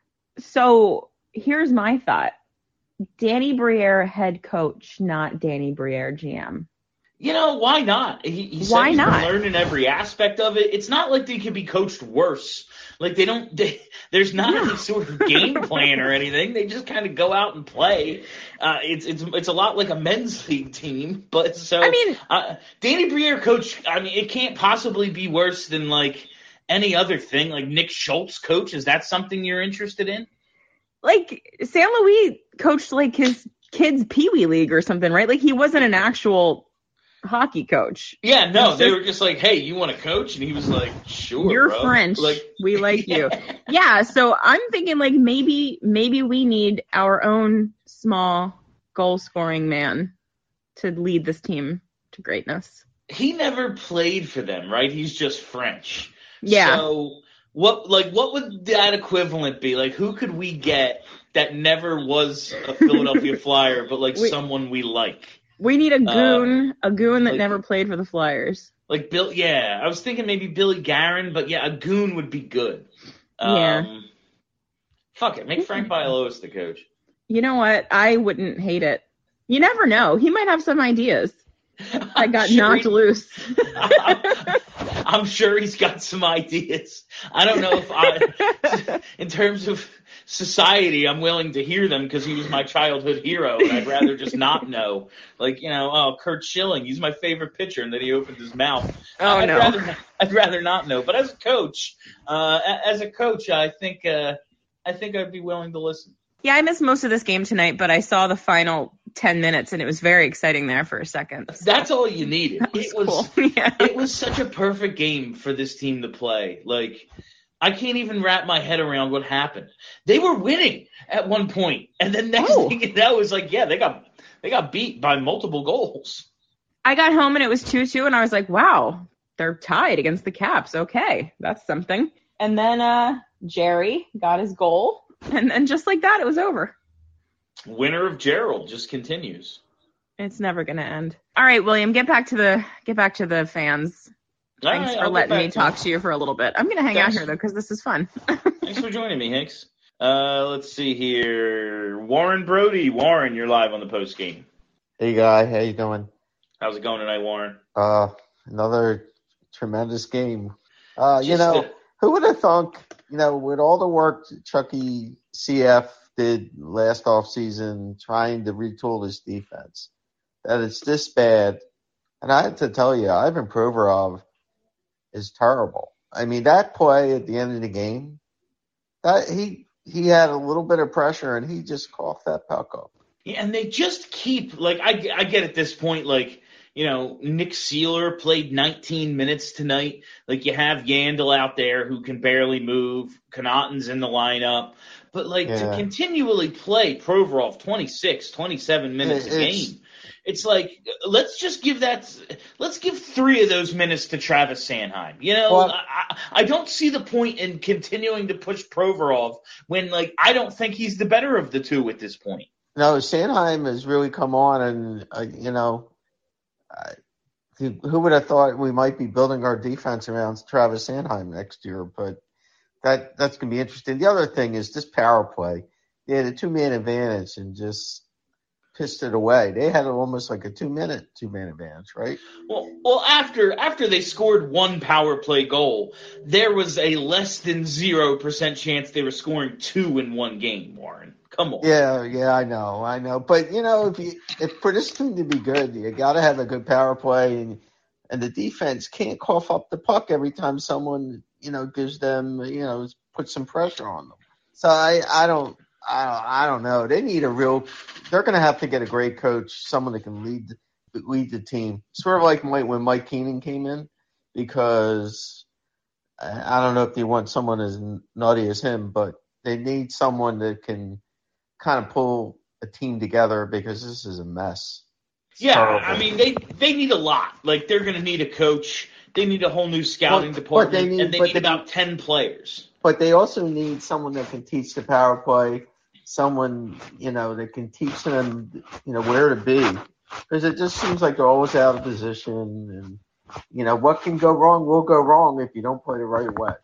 Speaker 12: So here's my thought. Danny Briere head coach, not Danny Briere G M.
Speaker 2: You know, why not? He, he said
Speaker 12: why
Speaker 2: he's
Speaker 12: not?
Speaker 2: been learning every aspect of it. It's not like they could be coached worse. Like they don't. They, there's not yeah. any sort of game plan or anything. They just kind of go out and play. Uh, it's it's it's a lot like a men's league team. But so
Speaker 12: I mean,
Speaker 2: uh, Danny Briere coach. I mean, it can't possibly be worse than like any other thing. Like Nick Schultz coach. Is that something you're interested in?
Speaker 12: Like Saint Louis coached like his kids' Pee Wee League or something, right? Like he wasn't an actual hockey coach.
Speaker 2: Yeah, no,
Speaker 12: just,
Speaker 2: they were just like, "Hey, you want to coach?" And he was like, "Sure,
Speaker 12: you're
Speaker 2: bro.
Speaker 12: French.
Speaker 2: Like,
Speaker 12: we like you." Yeah, so I'm thinking like maybe maybe we need our own small goal scoring man to lead this team to greatness.
Speaker 2: He never played for them, right? He's just French.
Speaker 12: Yeah.
Speaker 2: So what like what would that equivalent be? Like who could we get that never was a Philadelphia Flyer, but like
Speaker 12: we,
Speaker 2: someone we like?
Speaker 12: We need a goon, uh, a goon that
Speaker 2: like,
Speaker 12: never played for the Flyers.
Speaker 2: Like Bill, yeah. I was thinking maybe Billy Guerin, but yeah, a goon would be good. Um,
Speaker 12: yeah.
Speaker 2: Fuck it, make Frank Bialowas the coach.
Speaker 12: You know what? I wouldn't hate it. You never know. He might have some ideas. I got sure knocked he, loose.
Speaker 2: I'm, I'm sure he's got some ideas. I don't know if I, in terms of society, I'm willing to hear them because he was my childhood hero, and I'd rather just not know. Like, you know, oh, Kurt Schilling, he's my favorite pitcher, and then he opened his mouth.
Speaker 12: Oh,
Speaker 2: I'd
Speaker 12: no.
Speaker 2: Rather, I'd rather not know. But as a coach, uh, as a coach, I think, uh, I think I'd be willing to listen.
Speaker 12: Yeah, I missed most of this game tonight, but I saw the final ten minutes, and it was very exciting there for a second. So.
Speaker 2: That's all you needed.
Speaker 12: That was
Speaker 2: it was
Speaker 12: cool. Yeah.
Speaker 2: It was such a perfect game for this team to play. Like, I can't even wrap my head around what happened. They were winning at one point, and then next
Speaker 12: oh.
Speaker 2: thing you know, it was like, yeah, they got they got beat by multiple goals.
Speaker 12: I got home and it was two two, and I was like, wow, they're tied against the Caps. Okay, that's something. And then uh, Jerry got his goal. And then just like that, it was over.
Speaker 2: Winner of Gerald just continues.
Speaker 12: It's never going to end. All right, William, get back to the get back to the fans.
Speaker 2: All
Speaker 12: Thanks
Speaker 2: right,
Speaker 12: for
Speaker 2: I'll
Speaker 12: letting me
Speaker 2: to
Speaker 12: talk to you for a little bit. I'm going to hang
Speaker 2: Thanks.
Speaker 12: out here, though, because this is fun.
Speaker 2: Thanks for joining me, Hanks. Uh, let's see here. Warren Brody. Warren, you're live on the post game.
Speaker 13: Hey, guy. How you doing?
Speaker 2: How's it going tonight, Warren?
Speaker 13: Uh, another tremendous game. Uh,
Speaker 2: Just
Speaker 13: you know,
Speaker 2: a-
Speaker 13: who would have thunk, you know, with all the work Chucky C F did last offseason trying to retool this defense, that it's this bad. And I have to tell you, Ivan Provorov is terrible. I mean, that play at the end of the game, that he he had a little bit of pressure and he just coughed that puck up.
Speaker 2: Yeah, and they just keep, like, I, I get at this point, like, you know, Nick Seeler played nineteen minutes tonight. Like, you have Yandel out there who can barely move. Connaughton's in the lineup. But, like,
Speaker 13: Yeah.
Speaker 2: to continually play Provorov twenty-six, twenty-seven minutes a
Speaker 13: It's-
Speaker 2: game, it's like, let's just give that – let's give three of those minutes to Travis Sanheim. You know,
Speaker 13: Well-
Speaker 2: I, I don't see the point in continuing to push Provorov when, like, I don't think he's the better of the two at this point.
Speaker 13: No, Sanheim has really come on, and uh, you know, uh, who, who would have thought we might be building our defense around Travis Sanheim next year? But that that's going to be interesting. The other thing is this power play. They had a two-man advantage and just pissed it away. They had almost like a two-minute two-man advantage, right?
Speaker 2: Well, well, after after they scored one power play goal, there was a less than zero percent chance they were scoring two in one game. Warren, come on.
Speaker 13: Yeah, yeah, I know, I know. But you know, if you if for this team to be good, you got to have a good power play, and and the defense can't cough up the puck every time someone you know gives them you know put some pressure on them. So I I don't. I, I don't know. They need a real – they're going to have to get a great coach, someone that can lead lead the team. Sort of like when Mike Keenan came in, because I don't know if they want someone as nutty as him, but they need someone that can kind of pull a team together because this is a mess. It's
Speaker 2: yeah,
Speaker 13: terrible.
Speaker 2: I mean, they, they need a lot. Like, they're going to need a coach. They need a whole new scouting
Speaker 13: But- but
Speaker 2: department,
Speaker 13: they need-
Speaker 2: and they
Speaker 13: but
Speaker 2: need
Speaker 13: they-
Speaker 2: about ten players.
Speaker 13: But they also need someone that can teach the power play, someone, you know, that can teach them, you know, where to be. Because it just seems like they're always out of position. And, you know, what can go wrong will go wrong if you don't play the right way.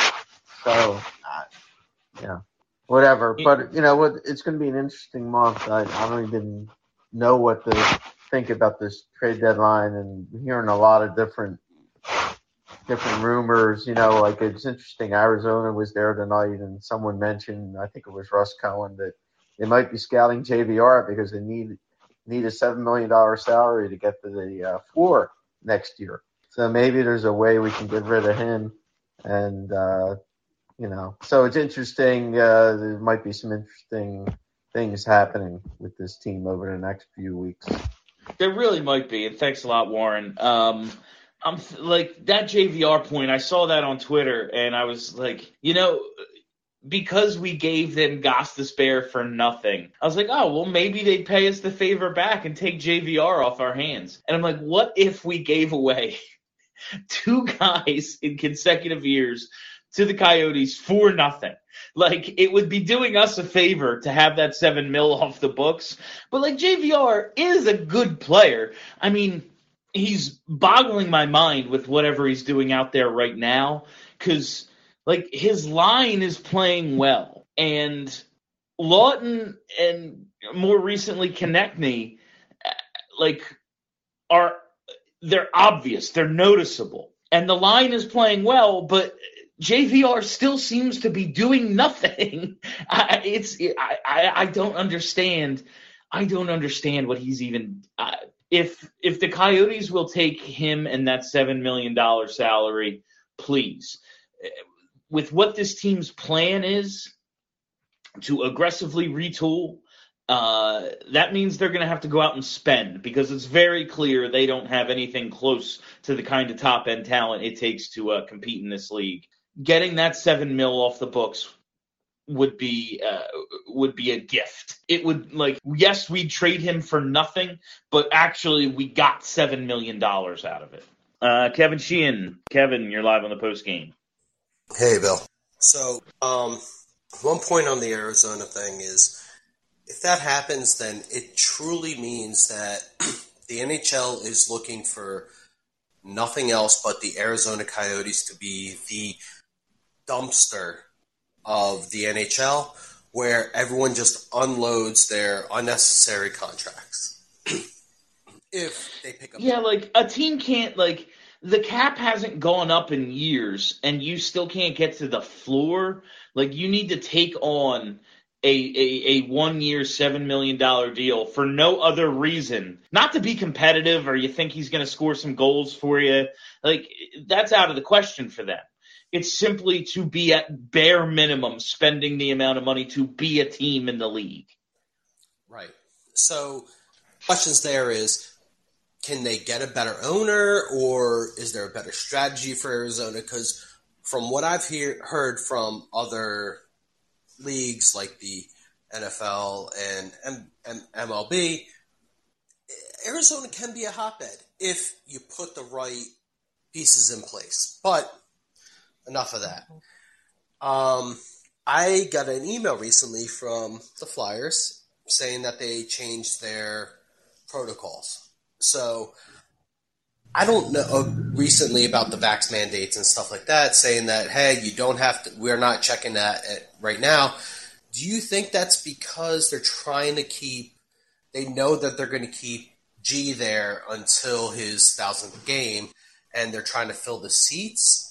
Speaker 13: So, uh, yeah, whatever. But, you know, what it's going to be an interesting month. I, I don't even know what to think about this trade deadline, and hearing a lot of different different rumors, you know, like it's interesting. Arizona was there tonight, and someone mentioned, I think it was Russ Cohen, that they might be scouting J V R because they need need a seven million dollars salary to get to the uh, floor next year. So maybe there's a way we can get rid of him, and uh, you know, so it's interesting. Uh, there might be some interesting things happening with this team over the next few weeks.
Speaker 2: There really might be, and thanks a lot, Warren. Um, I'm th- like that J V R point. I saw that on Twitter, and I was like, you know, because we gave them Gostisbehere for nothing, I was like, oh well, maybe they'd pay us the favor back and take J V R off our hands. And I'm like, what if we gave away two guys in consecutive years to the Coyotes for nothing? Like, it would be doing us a favor to have that seven mil off the books. But like, J V R is a good player. I mean, he's boggling my mind with whatever he's doing out there right now, because like his line is playing well, and Lawton and more recently Konechny, like are they're obvious, they're noticeable, and the line is playing well, but J V R still seems to be doing nothing. I, it's I, I I don't understand. I don't understand what he's even. Uh, If if the Coyotes will take him and that seven million dollars salary, please. With what this team's plan is to aggressively retool, uh, that means they're going to have to go out and spend, because it's very clear they don't have anything close to the kind of top-end talent it takes to uh, compete in this league. Getting that seven mil off the books would be uh, would be a gift. It would, like, yes, we'd trade him for nothing, but actually we got seven million dollars out of it. Uh, Kevin Sheehan. Kevin, you're live on the post game.
Speaker 14: Hey, Bill. So, um, one point on the Arizona thing is, if that happens, then it truly means that the N H L is looking for nothing else but the Arizona Coyotes to be the dumpster of the N H L, where everyone just unloads their unnecessary contracts. If they pick up,
Speaker 2: yeah, like a team can't, like, the cap hasn't gone up in years, and you still can't get to the floor. Like, you need to take on a a, a one year seven million dollar deal for no other reason, not to be competitive, or you think he's going to score some goals for you. Like, that's out of the question for them. It's simply to be at bare minimum spending the amount of money to be a team in the league.
Speaker 14: Right. So, questions there is, can they get a better owner, or is there a better strategy for Arizona? Because from what I've hear, heard from other leagues like the N F L and M- M- M L B, Arizona can be a hotbed if you put the right pieces in place. But enough of that. Um, I got an email recently from the Flyers saying that they changed their protocols. So I don't know uh, recently about the vax mandates and stuff like that, saying that, hey, you don't have to, we're not checking that at, right now. Do you think that's because they're trying to keep, they know that they're going to keep G there until his thousandth game and they're trying to fill the seats?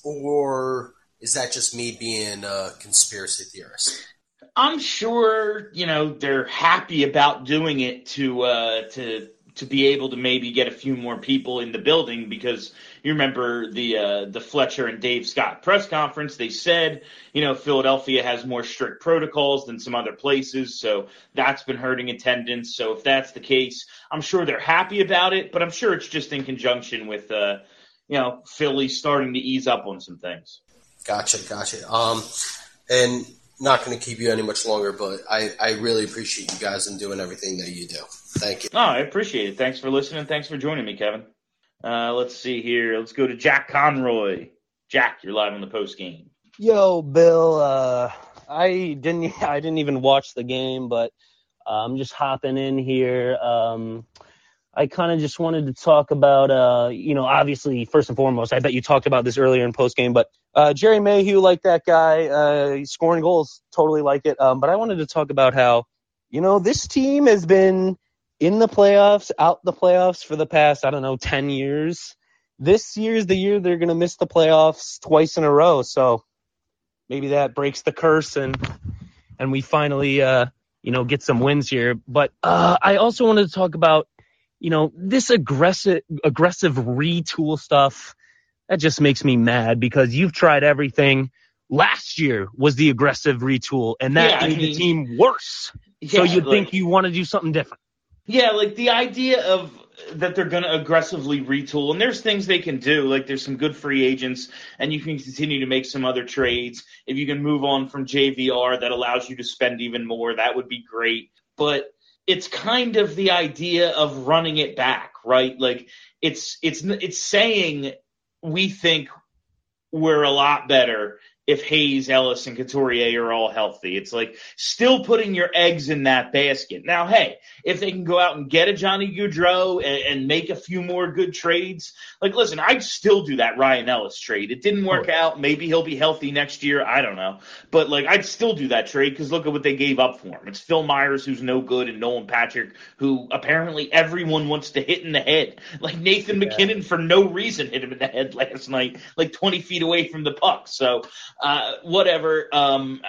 Speaker 14: Or is that just me being a conspiracy theorist?
Speaker 2: I'm sure, you know, they're happy about doing it to, uh, to, to be able to maybe get a few more people in the building, because you remember the uh, the Fletcher and Dave Scott press conference. They said, you know, Philadelphia has more strict protocols than some other places, so that's been hurting attendance. So if that's the case, I'm sure they're happy about it, but I'm sure it's just in conjunction with, uh, you know, Philly starting to ease up on some things.
Speaker 14: Gotcha, gotcha. Um, and not going to keep you any much longer, but I, I really appreciate you guys and doing everything that you do. Thank you.
Speaker 2: Oh, I appreciate it. Thanks for listening. Thanks for joining me, Kevin. Uh, let's see here. Let's go to Jack Conroy. Jack, you're live on the post game.
Speaker 15: Yo, Bill. Uh, I didn't. I didn't even watch the game, but uh, I'm just hopping in here. Um, I kind of just wanted to talk about, uh, you know, obviously, first and foremost, I bet you talked about this earlier in post game, but uh, Jerry Mayhew, like that guy, uh, he's scoring goals, totally like it. Um, but I wanted to talk about how, you know, this team has been in the playoffs, out the playoffs for the past, I don't know, ten years. This year's the year they're going to miss the playoffs twice in a row. So maybe that breaks the curse and and we finally, uh, you know, get some wins here. But uh, I also wanted to talk about, you know, this aggressive aggressive retool stuff. That just makes me mad because you've tried everything. Last year was the aggressive retool, and that
Speaker 2: Yeah, I
Speaker 15: made
Speaker 2: mean,
Speaker 15: the team worse. So
Speaker 2: yeah,
Speaker 15: you'd
Speaker 2: like-
Speaker 15: think you want to do something different.
Speaker 2: Yeah, like the idea of that they're going to aggressively retool, and there's things they can do. Like there's some good free agents, and you can continue to make some other trades. If you can move on from J V R, that allows you to spend even more. That would be great. But it's kind of the idea of running it back, right? Like it's it's it's saying we think we're a lot better if Hayes, Ellis, and Couturier are all healthy. It's like still putting your eggs in that basket. Now, hey, if they can go out and get a Johnny Gaudreau and, and make a few more good trades, like, listen, I'd still do that Ryan Ellis trade. It didn't work out. Maybe he'll be healthy next year. I don't know. But, like, I'd still do that trade because look at what they gave up for him. It's Phil Myers, who's no good, and Nolan Patrick, who apparently everyone wants to hit in the head. Like Nathan
Speaker 15: Yeah.
Speaker 2: McKinnon, for no reason, hit him in the head last night, like twenty feet away from the puck. So, Uh, whatever. Um,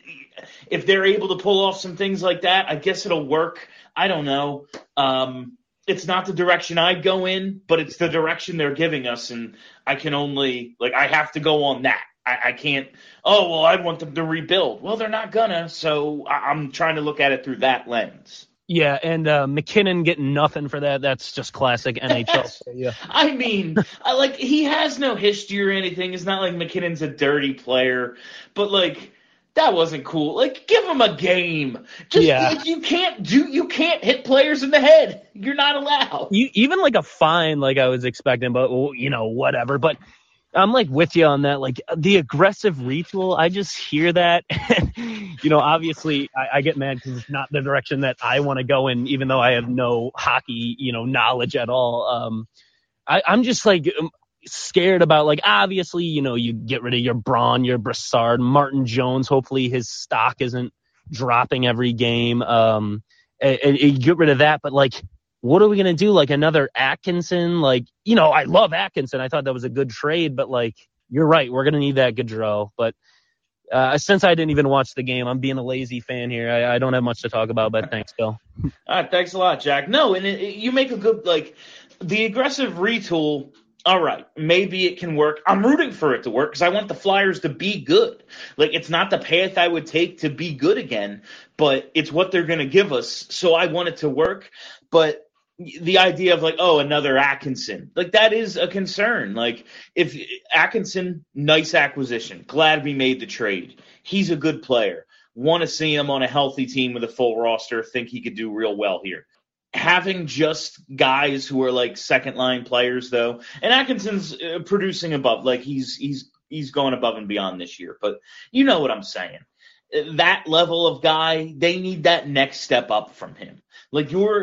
Speaker 2: if they're able to pull off some things like that, I guess it'll work. I don't know. Um, it's not the direction I'd go in, but it's the direction they're giving us, and I can only like I have to go on that. I, I can't. Oh well, I want them to rebuild. Well, they're not gonna. So I, I'm trying to look at it through that lens.
Speaker 15: Yeah, and uh, McKinnon getting nothing for that. That's just classic N H L. Yeah.
Speaker 2: I mean, I, like he has no history or anything. It's not like McKinnon's a dirty player, but like that wasn't cool. Like give him a game. Just
Speaker 15: Yeah.
Speaker 2: like, you can't do you can't hit players in the head. You're not allowed.
Speaker 15: You, even like a fine, like I was expecting, but well, you know, whatever. But I'm like with you on that. Like the aggressive retool, I just hear that. You know, obviously I, I get mad because it's not the direction that I want to go in, even though I have no hockey, you know, knowledge at all. Um, I, I'm just like um, scared about like, obviously, you know, you get rid of your Braun, your Brassard, Martin Jones. Hopefully his stock isn't dropping every game. Um, and, and you get rid of that, but like, what are we going to do? Like another Atkinson? Like, you know, I love Atkinson. I thought that was a good trade, but like, you're right. We're going to need that Gaudreau. But uh, since I didn't even watch the game, I'm being a lazy fan here. I, I don't have much to talk about, but thanks, Bill.
Speaker 2: All right, thanks a lot, Jack. No, and it, it, you make a good like the aggressive retool. All right, maybe it can work. I'm rooting for it to work because I want the Flyers to be good. Like, it's not the path I would take to be good again, but it's what they're going to give us. So I want it to work. But the idea of like, oh, another Atkinson, like that is a concern. Like if Atkinson, nice acquisition. Glad we made the trade. He's a good player. Want to see him on a healthy team with a full roster. Think he could do real well here. Having just guys who are like second line players though, and Atkinson's uh, producing above, like he's, he's, he's going above and beyond this year, but you know what I'm saying. That level of guy, they need that next step up from him. Like you're,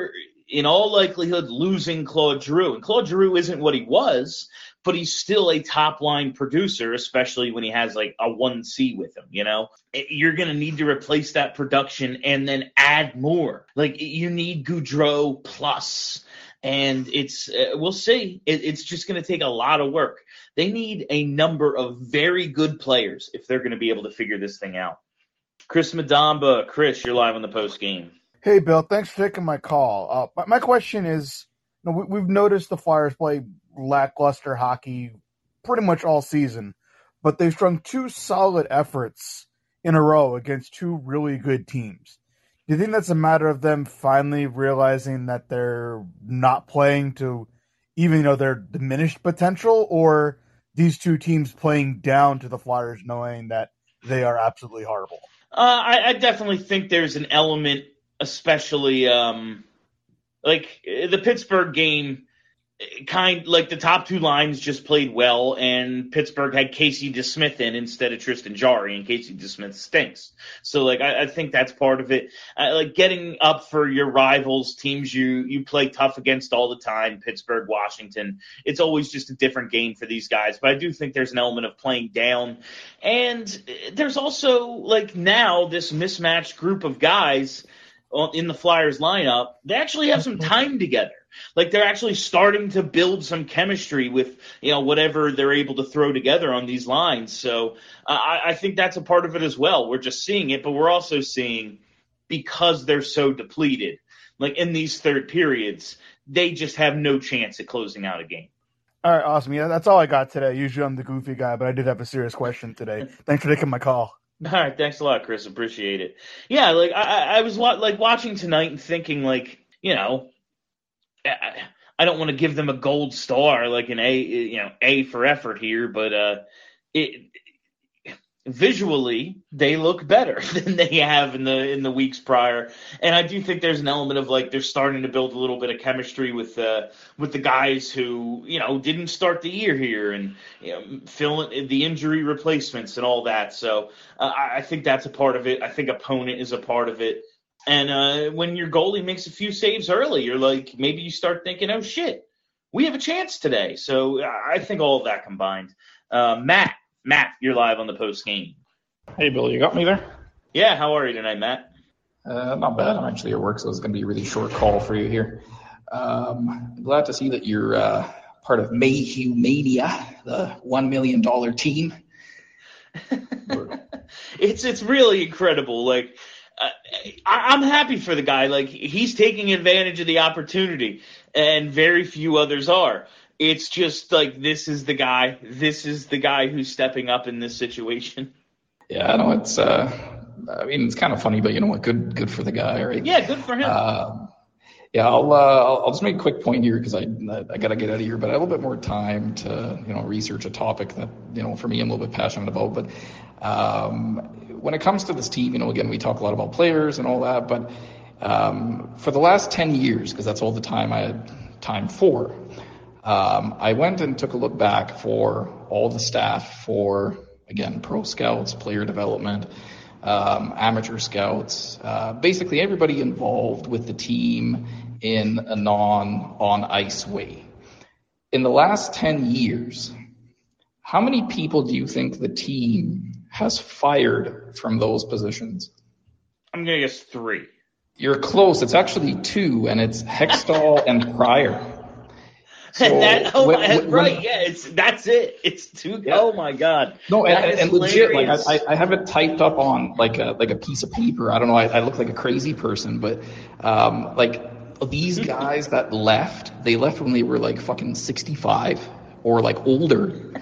Speaker 2: in all likelihood, losing Claude Giroux. And Claude Giroux isn't what he was, but he's still a top-line producer, especially when he has like a one C with him, you know? You're going to need to replace that production and then add more. Like, you need Gaudreau plus. And it's uh, we'll see. It, it's just going to take a lot of work. They need a number of very good players if they're going to be able to figure this thing out. Chris Madamba. Chris, you're live on the post game.
Speaker 16: Hey, Bill. Thanks for taking my call. Uh, my, my question is, you know, we, we've noticed the Flyers play lackluster hockey pretty much all season, but they've strung two solid efforts in a row against two really good teams. Do you think that's a matter of them finally realizing that they're not playing to even, you know, their diminished potential, or these two teams playing down to the Flyers knowing that they are absolutely horrible?
Speaker 2: Uh, I, I definitely think there's an element, especially um, like the Pittsburgh game, kind like the top two lines just played well, and Pittsburgh had Casey DeSmith in instead of Tristan Jarry, and Casey DeSmith stinks. So like I, I think that's part of it. Uh, like getting up for your rivals, teams you you play tough against all the time, Pittsburgh, Washington. It's always just a different game for these guys. But I do think there's an element of playing down, and there's also like now this mismatched group of guys in the Flyers lineup. They actually have some time together. Like they're actually starting to build some chemistry with, you know, whatever they're able to throw together on these lines. So uh, I, I think that's a part of it as well. We're just seeing it, but we're also seeing, because they're so depleted, like in these third periods, they just have no chance at closing out a game.
Speaker 16: All right, awesome. Yeah, that's all I got today. Usually I'm the goofy guy, but I did have a serious question today. Thanks for taking my call.
Speaker 2: All right, thanks a lot, Chris. Appreciate it. Yeah, like I, I was wa- like watching tonight and thinking, like, you know, I don't want to give them a gold star, like an A, you know, A for effort here, but uh, it visually they look better than they have in the in the weeks prior, and I do think there's an element of like they're starting to build a little bit of chemistry with uh, with the guys who, you know, didn't start the year here, and, you know, filling the injury replacements and all that. So uh, I think that's a part of it. I think opponent is a part of it. And uh, when your goalie makes a few saves early, you're like, maybe you start thinking, oh, shit, we have a chance today. So I think all of that combined. Uh, Matt, Matt, you're live on the post game.
Speaker 17: Hey, Bill, you got me there?
Speaker 2: Yeah, how are you tonight, Matt?
Speaker 17: Uh, not bad. I'm actually at work, so it's going to be a really short call for you here. Um, I'm glad to see that you're uh, part of Mayhew Mania, the one million dollars team.
Speaker 2: it's it's really incredible. Like, I, I'm happy for the guy. Like, he's taking advantage of the opportunity, and very few others are. It's just like, this is the guy. This is the guy who's stepping up in this situation.
Speaker 17: Yeah, I know it's. Uh, I mean, it's kind of funny, but you know what? Good, good for the guy, right?
Speaker 2: Yeah, good for him.
Speaker 17: Uh, yeah, I'll, uh, I'll I'll just make a quick point here because I I got to get out of here, but I have a little bit more time to, you know, research a topic that, you know, for me I'm a little bit passionate about. But um, when it comes to this team, you know, again, we talk a lot about players and all that, but um, for the last ten years, because that's all the time I had time for, um, I went and took a look back for all the staff for, again, pro scouts, player development, um, amateur scouts, uh, basically everybody involved with the team in a non-on-ice way. In the last ten years, how many people do you think the team has fired from those positions?
Speaker 2: I'm going to guess three.
Speaker 17: You're close. It's actually two, and it's Hextall and Pryor. So
Speaker 2: that, oh,
Speaker 17: when,
Speaker 2: my,
Speaker 17: when,
Speaker 2: right,
Speaker 17: when,
Speaker 2: yeah, it's that's it. It's two. Yeah. Oh my God.
Speaker 17: No,
Speaker 2: that
Speaker 17: and, and legit, like I, I have it typed up on like a like a piece of paper. I don't know. I, I look like a crazy person, but um, like these guys that left, they left when they were like fucking sixty-five or like older.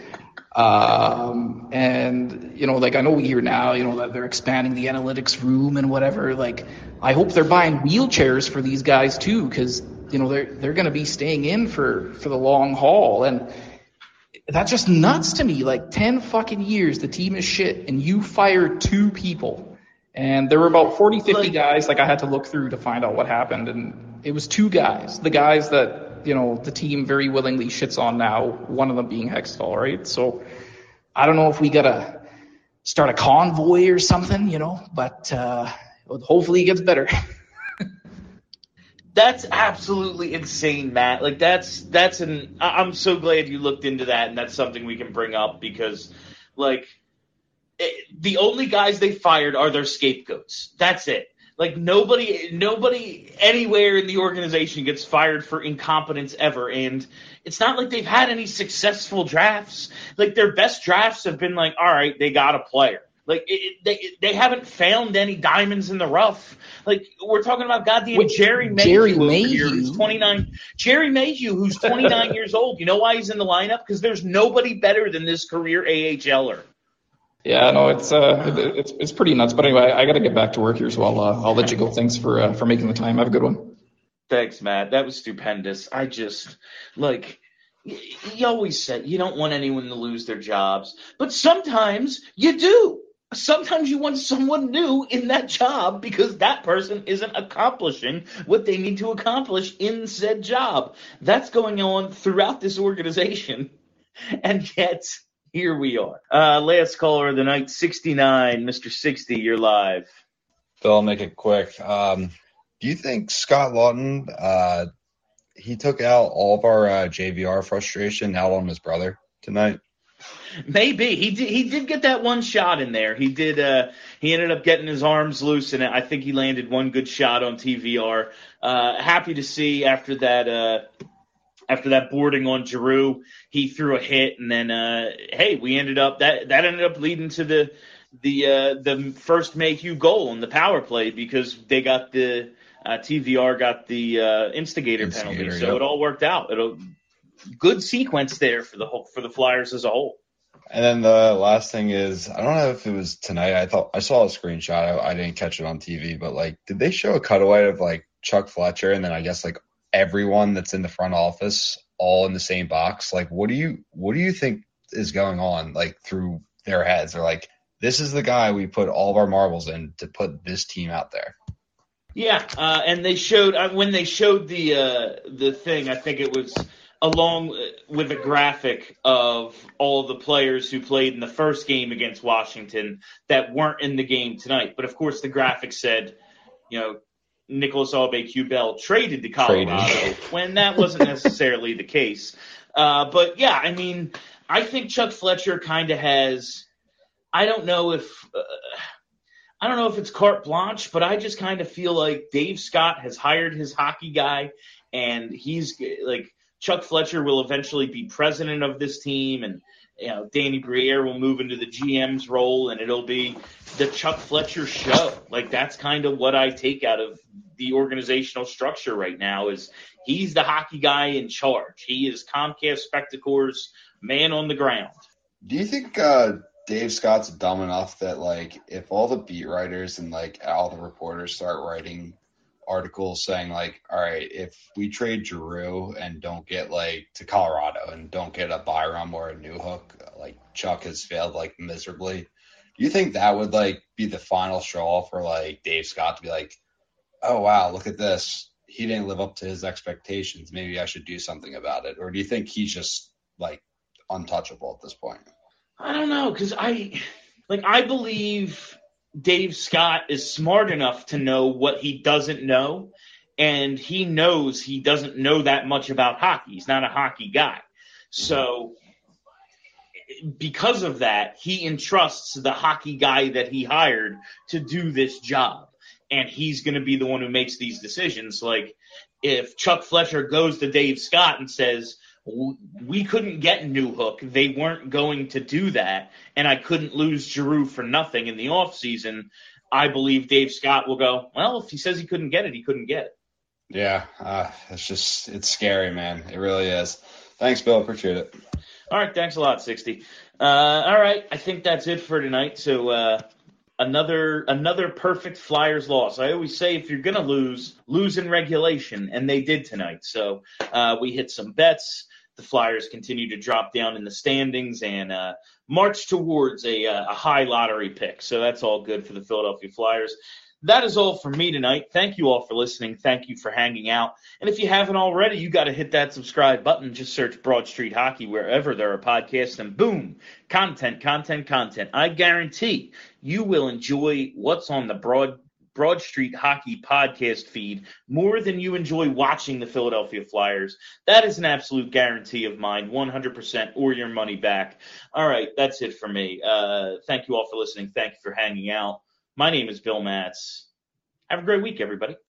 Speaker 17: Um, and you know, like I know we hear now, you know, that they're expanding the analytics room and whatever. Like, I hope they're buying wheelchairs for these guys too, because, you know, they're they're going to be staying in for, for the long haul. And that's just nuts to me. Like, ten fucking years, the team is shit, and you fired two people. And there were about forty, fifty guys, like I had to look through to find out what happened. And it was two guys, the guys that, you know, the team very willingly shits on now, one of them being Hextall, right? So I don't know if we got to start a convoy or something, you know, but uh, hopefully it gets better.
Speaker 2: That's absolutely insane, Matt. Like that's that's an. I- I'm so glad you looked into that, and that's something we can bring up because, like, it, the only guys they fired are their scapegoats. That's it. Like nobody, nobody anywhere in the organization gets fired for incompetence ever, and it's not like they've had any successful drafts. Like their best drafts have been like, all right, they got a player. Like it, it, they they haven't found any diamonds in the rough. Like we're talking about goddamn
Speaker 17: Wait,
Speaker 2: Jerry Mayhew
Speaker 17: Jerry
Speaker 2: over
Speaker 17: Mayhew?
Speaker 2: here, who's twenty-nine. Jerry Mayhew, who's twenty-nine years old. You know why he's in the lineup? Because there's nobody better than this career AHLer.
Speaker 17: Yeah, no, it's uh, it, it's it's pretty nuts. But anyway, I got to get back to work here, so I'll uh, I'll let you go. Thanks for uh, for making the time. Have a good one.
Speaker 2: Thanks, Matt. That was stupendous. I just like. You always said you don't want anyone to lose their jobs, but sometimes you do. Sometimes you want someone new in that job because that person isn't accomplishing what they need to accomplish in said job. That's going on throughout this organization, and yet here we are. Uh, last caller of the night, sixty-nine, Mister sixty, you're live.
Speaker 18: Phil, I'll make it quick. Um, do you think Scott Lawton, uh, he took out all of our uh, J V R frustration out on his brother tonight?
Speaker 2: Maybe he did. He did get that one shot in there. He did. Uh, he ended up getting his arms loose, and I think he landed one good shot on T V R. Uh, happy to see after that. Uh, after that boarding on Giroux, he threw a hit, and then uh, hey, we ended up that that ended up leading to the the uh, the first Mayhew goal in the power play because they got the uh, T V R got the uh, instigator,
Speaker 18: Instigator,
Speaker 2: penalty, so
Speaker 18: yep.
Speaker 2: it all worked out. It'll good sequence there for the whole for the Flyers as a whole.
Speaker 18: And then the last thing is, I don't know if it was tonight. I thought I saw a screenshot. I, I didn't catch it on T V, but like, did they show a cutaway of like Chuck Fletcher and then I guess like everyone that's in the front office all in the same box? Like, what do you what do you think is going on like through their heads? They're like, this is the guy we put all of our marbles in to put this team out there.
Speaker 2: Yeah, uh, and they showed uh, when they showed the uh, the thing. I think it was along with a graphic of all the players who played in the first game against Washington that weren't in the game tonight. But of course, the graphic said, you know, Nicholas Aube-Kubel traded to Colorado traded. when that wasn't necessarily the case. Uh, but yeah, I mean, I think Chuck Fletcher kind of has. I don't know if. Uh, I don't know if it's carte blanche, but I just kind of feel like Dave Scott has hired his hockey guy, and he's like Chuck Fletcher will eventually be president of this team, and you know Danny Briere will move into the G M's role, and it'll be the Chuck Fletcher show. Like that's kind of what I take out of the organizational structure right now is he's the hockey guy in charge. He is Comcast Spectacor's man on the ground.
Speaker 18: Do you think uh, Dave Scott's dumb enough that, like, if all the beat writers and, like, all the reporters start writing articles saying, like, all right, if we trade Giroux and don't get, like, to Colorado and don't get a Byram or a Newhook, like, Chuck has failed, like, miserably, do you think that would, like, be the final straw for, like, Dave Scott to be like, oh, wow, look at this. He didn't live up to his expectations. Maybe I should do something about it. Or do you think he's just, like, untouchable at this point?
Speaker 2: I don't know, because I, like, I believe Dave Scott is smart enough to know what he doesn't know, and he knows he doesn't know that much about hockey. He's not a hockey guy. So because of that, he entrusts the hockey guy that he hired to do this job, and he's going to be the one who makes these decisions. Like, if Chuck Fletcher goes to Dave Scott and says, we couldn't get Newhook. They weren't going to do that, and I couldn't lose Giroux for nothing in the offseason. I believe Dave Scott will go, well, if he says he couldn't get it, he couldn't get it.
Speaker 18: Yeah, uh, it's just it's scary, man. It really is. Thanks, Bill. Appreciate it.
Speaker 2: All right, thanks a lot, sixty. Uh, all right, I think that's it for tonight. So uh, another another perfect Flyers loss. I always say if you're going to lose, lose in regulation, and they did tonight. So uh, we hit some bets. The Flyers continue to drop down in the standings and uh, march towards a, a high lottery pick. So that's all good for the Philadelphia Flyers. That is all for me tonight. Thank you all for listening. Thank you for hanging out. And if you haven't already, you got to hit that subscribe button. Just search Broad Street Hockey wherever there are podcasts, and boom, content, content, content. I guarantee you will enjoy what's on the Broad Broad Street Hockey podcast feed more than you enjoy watching the Philadelphia Flyers. That is an absolute guarantee of mine, one hundred percent or your money back. All right, that's it for me. Uh, thank you all for listening. Thank you for hanging out. My name is Bill Matz. Have a great week, everybody.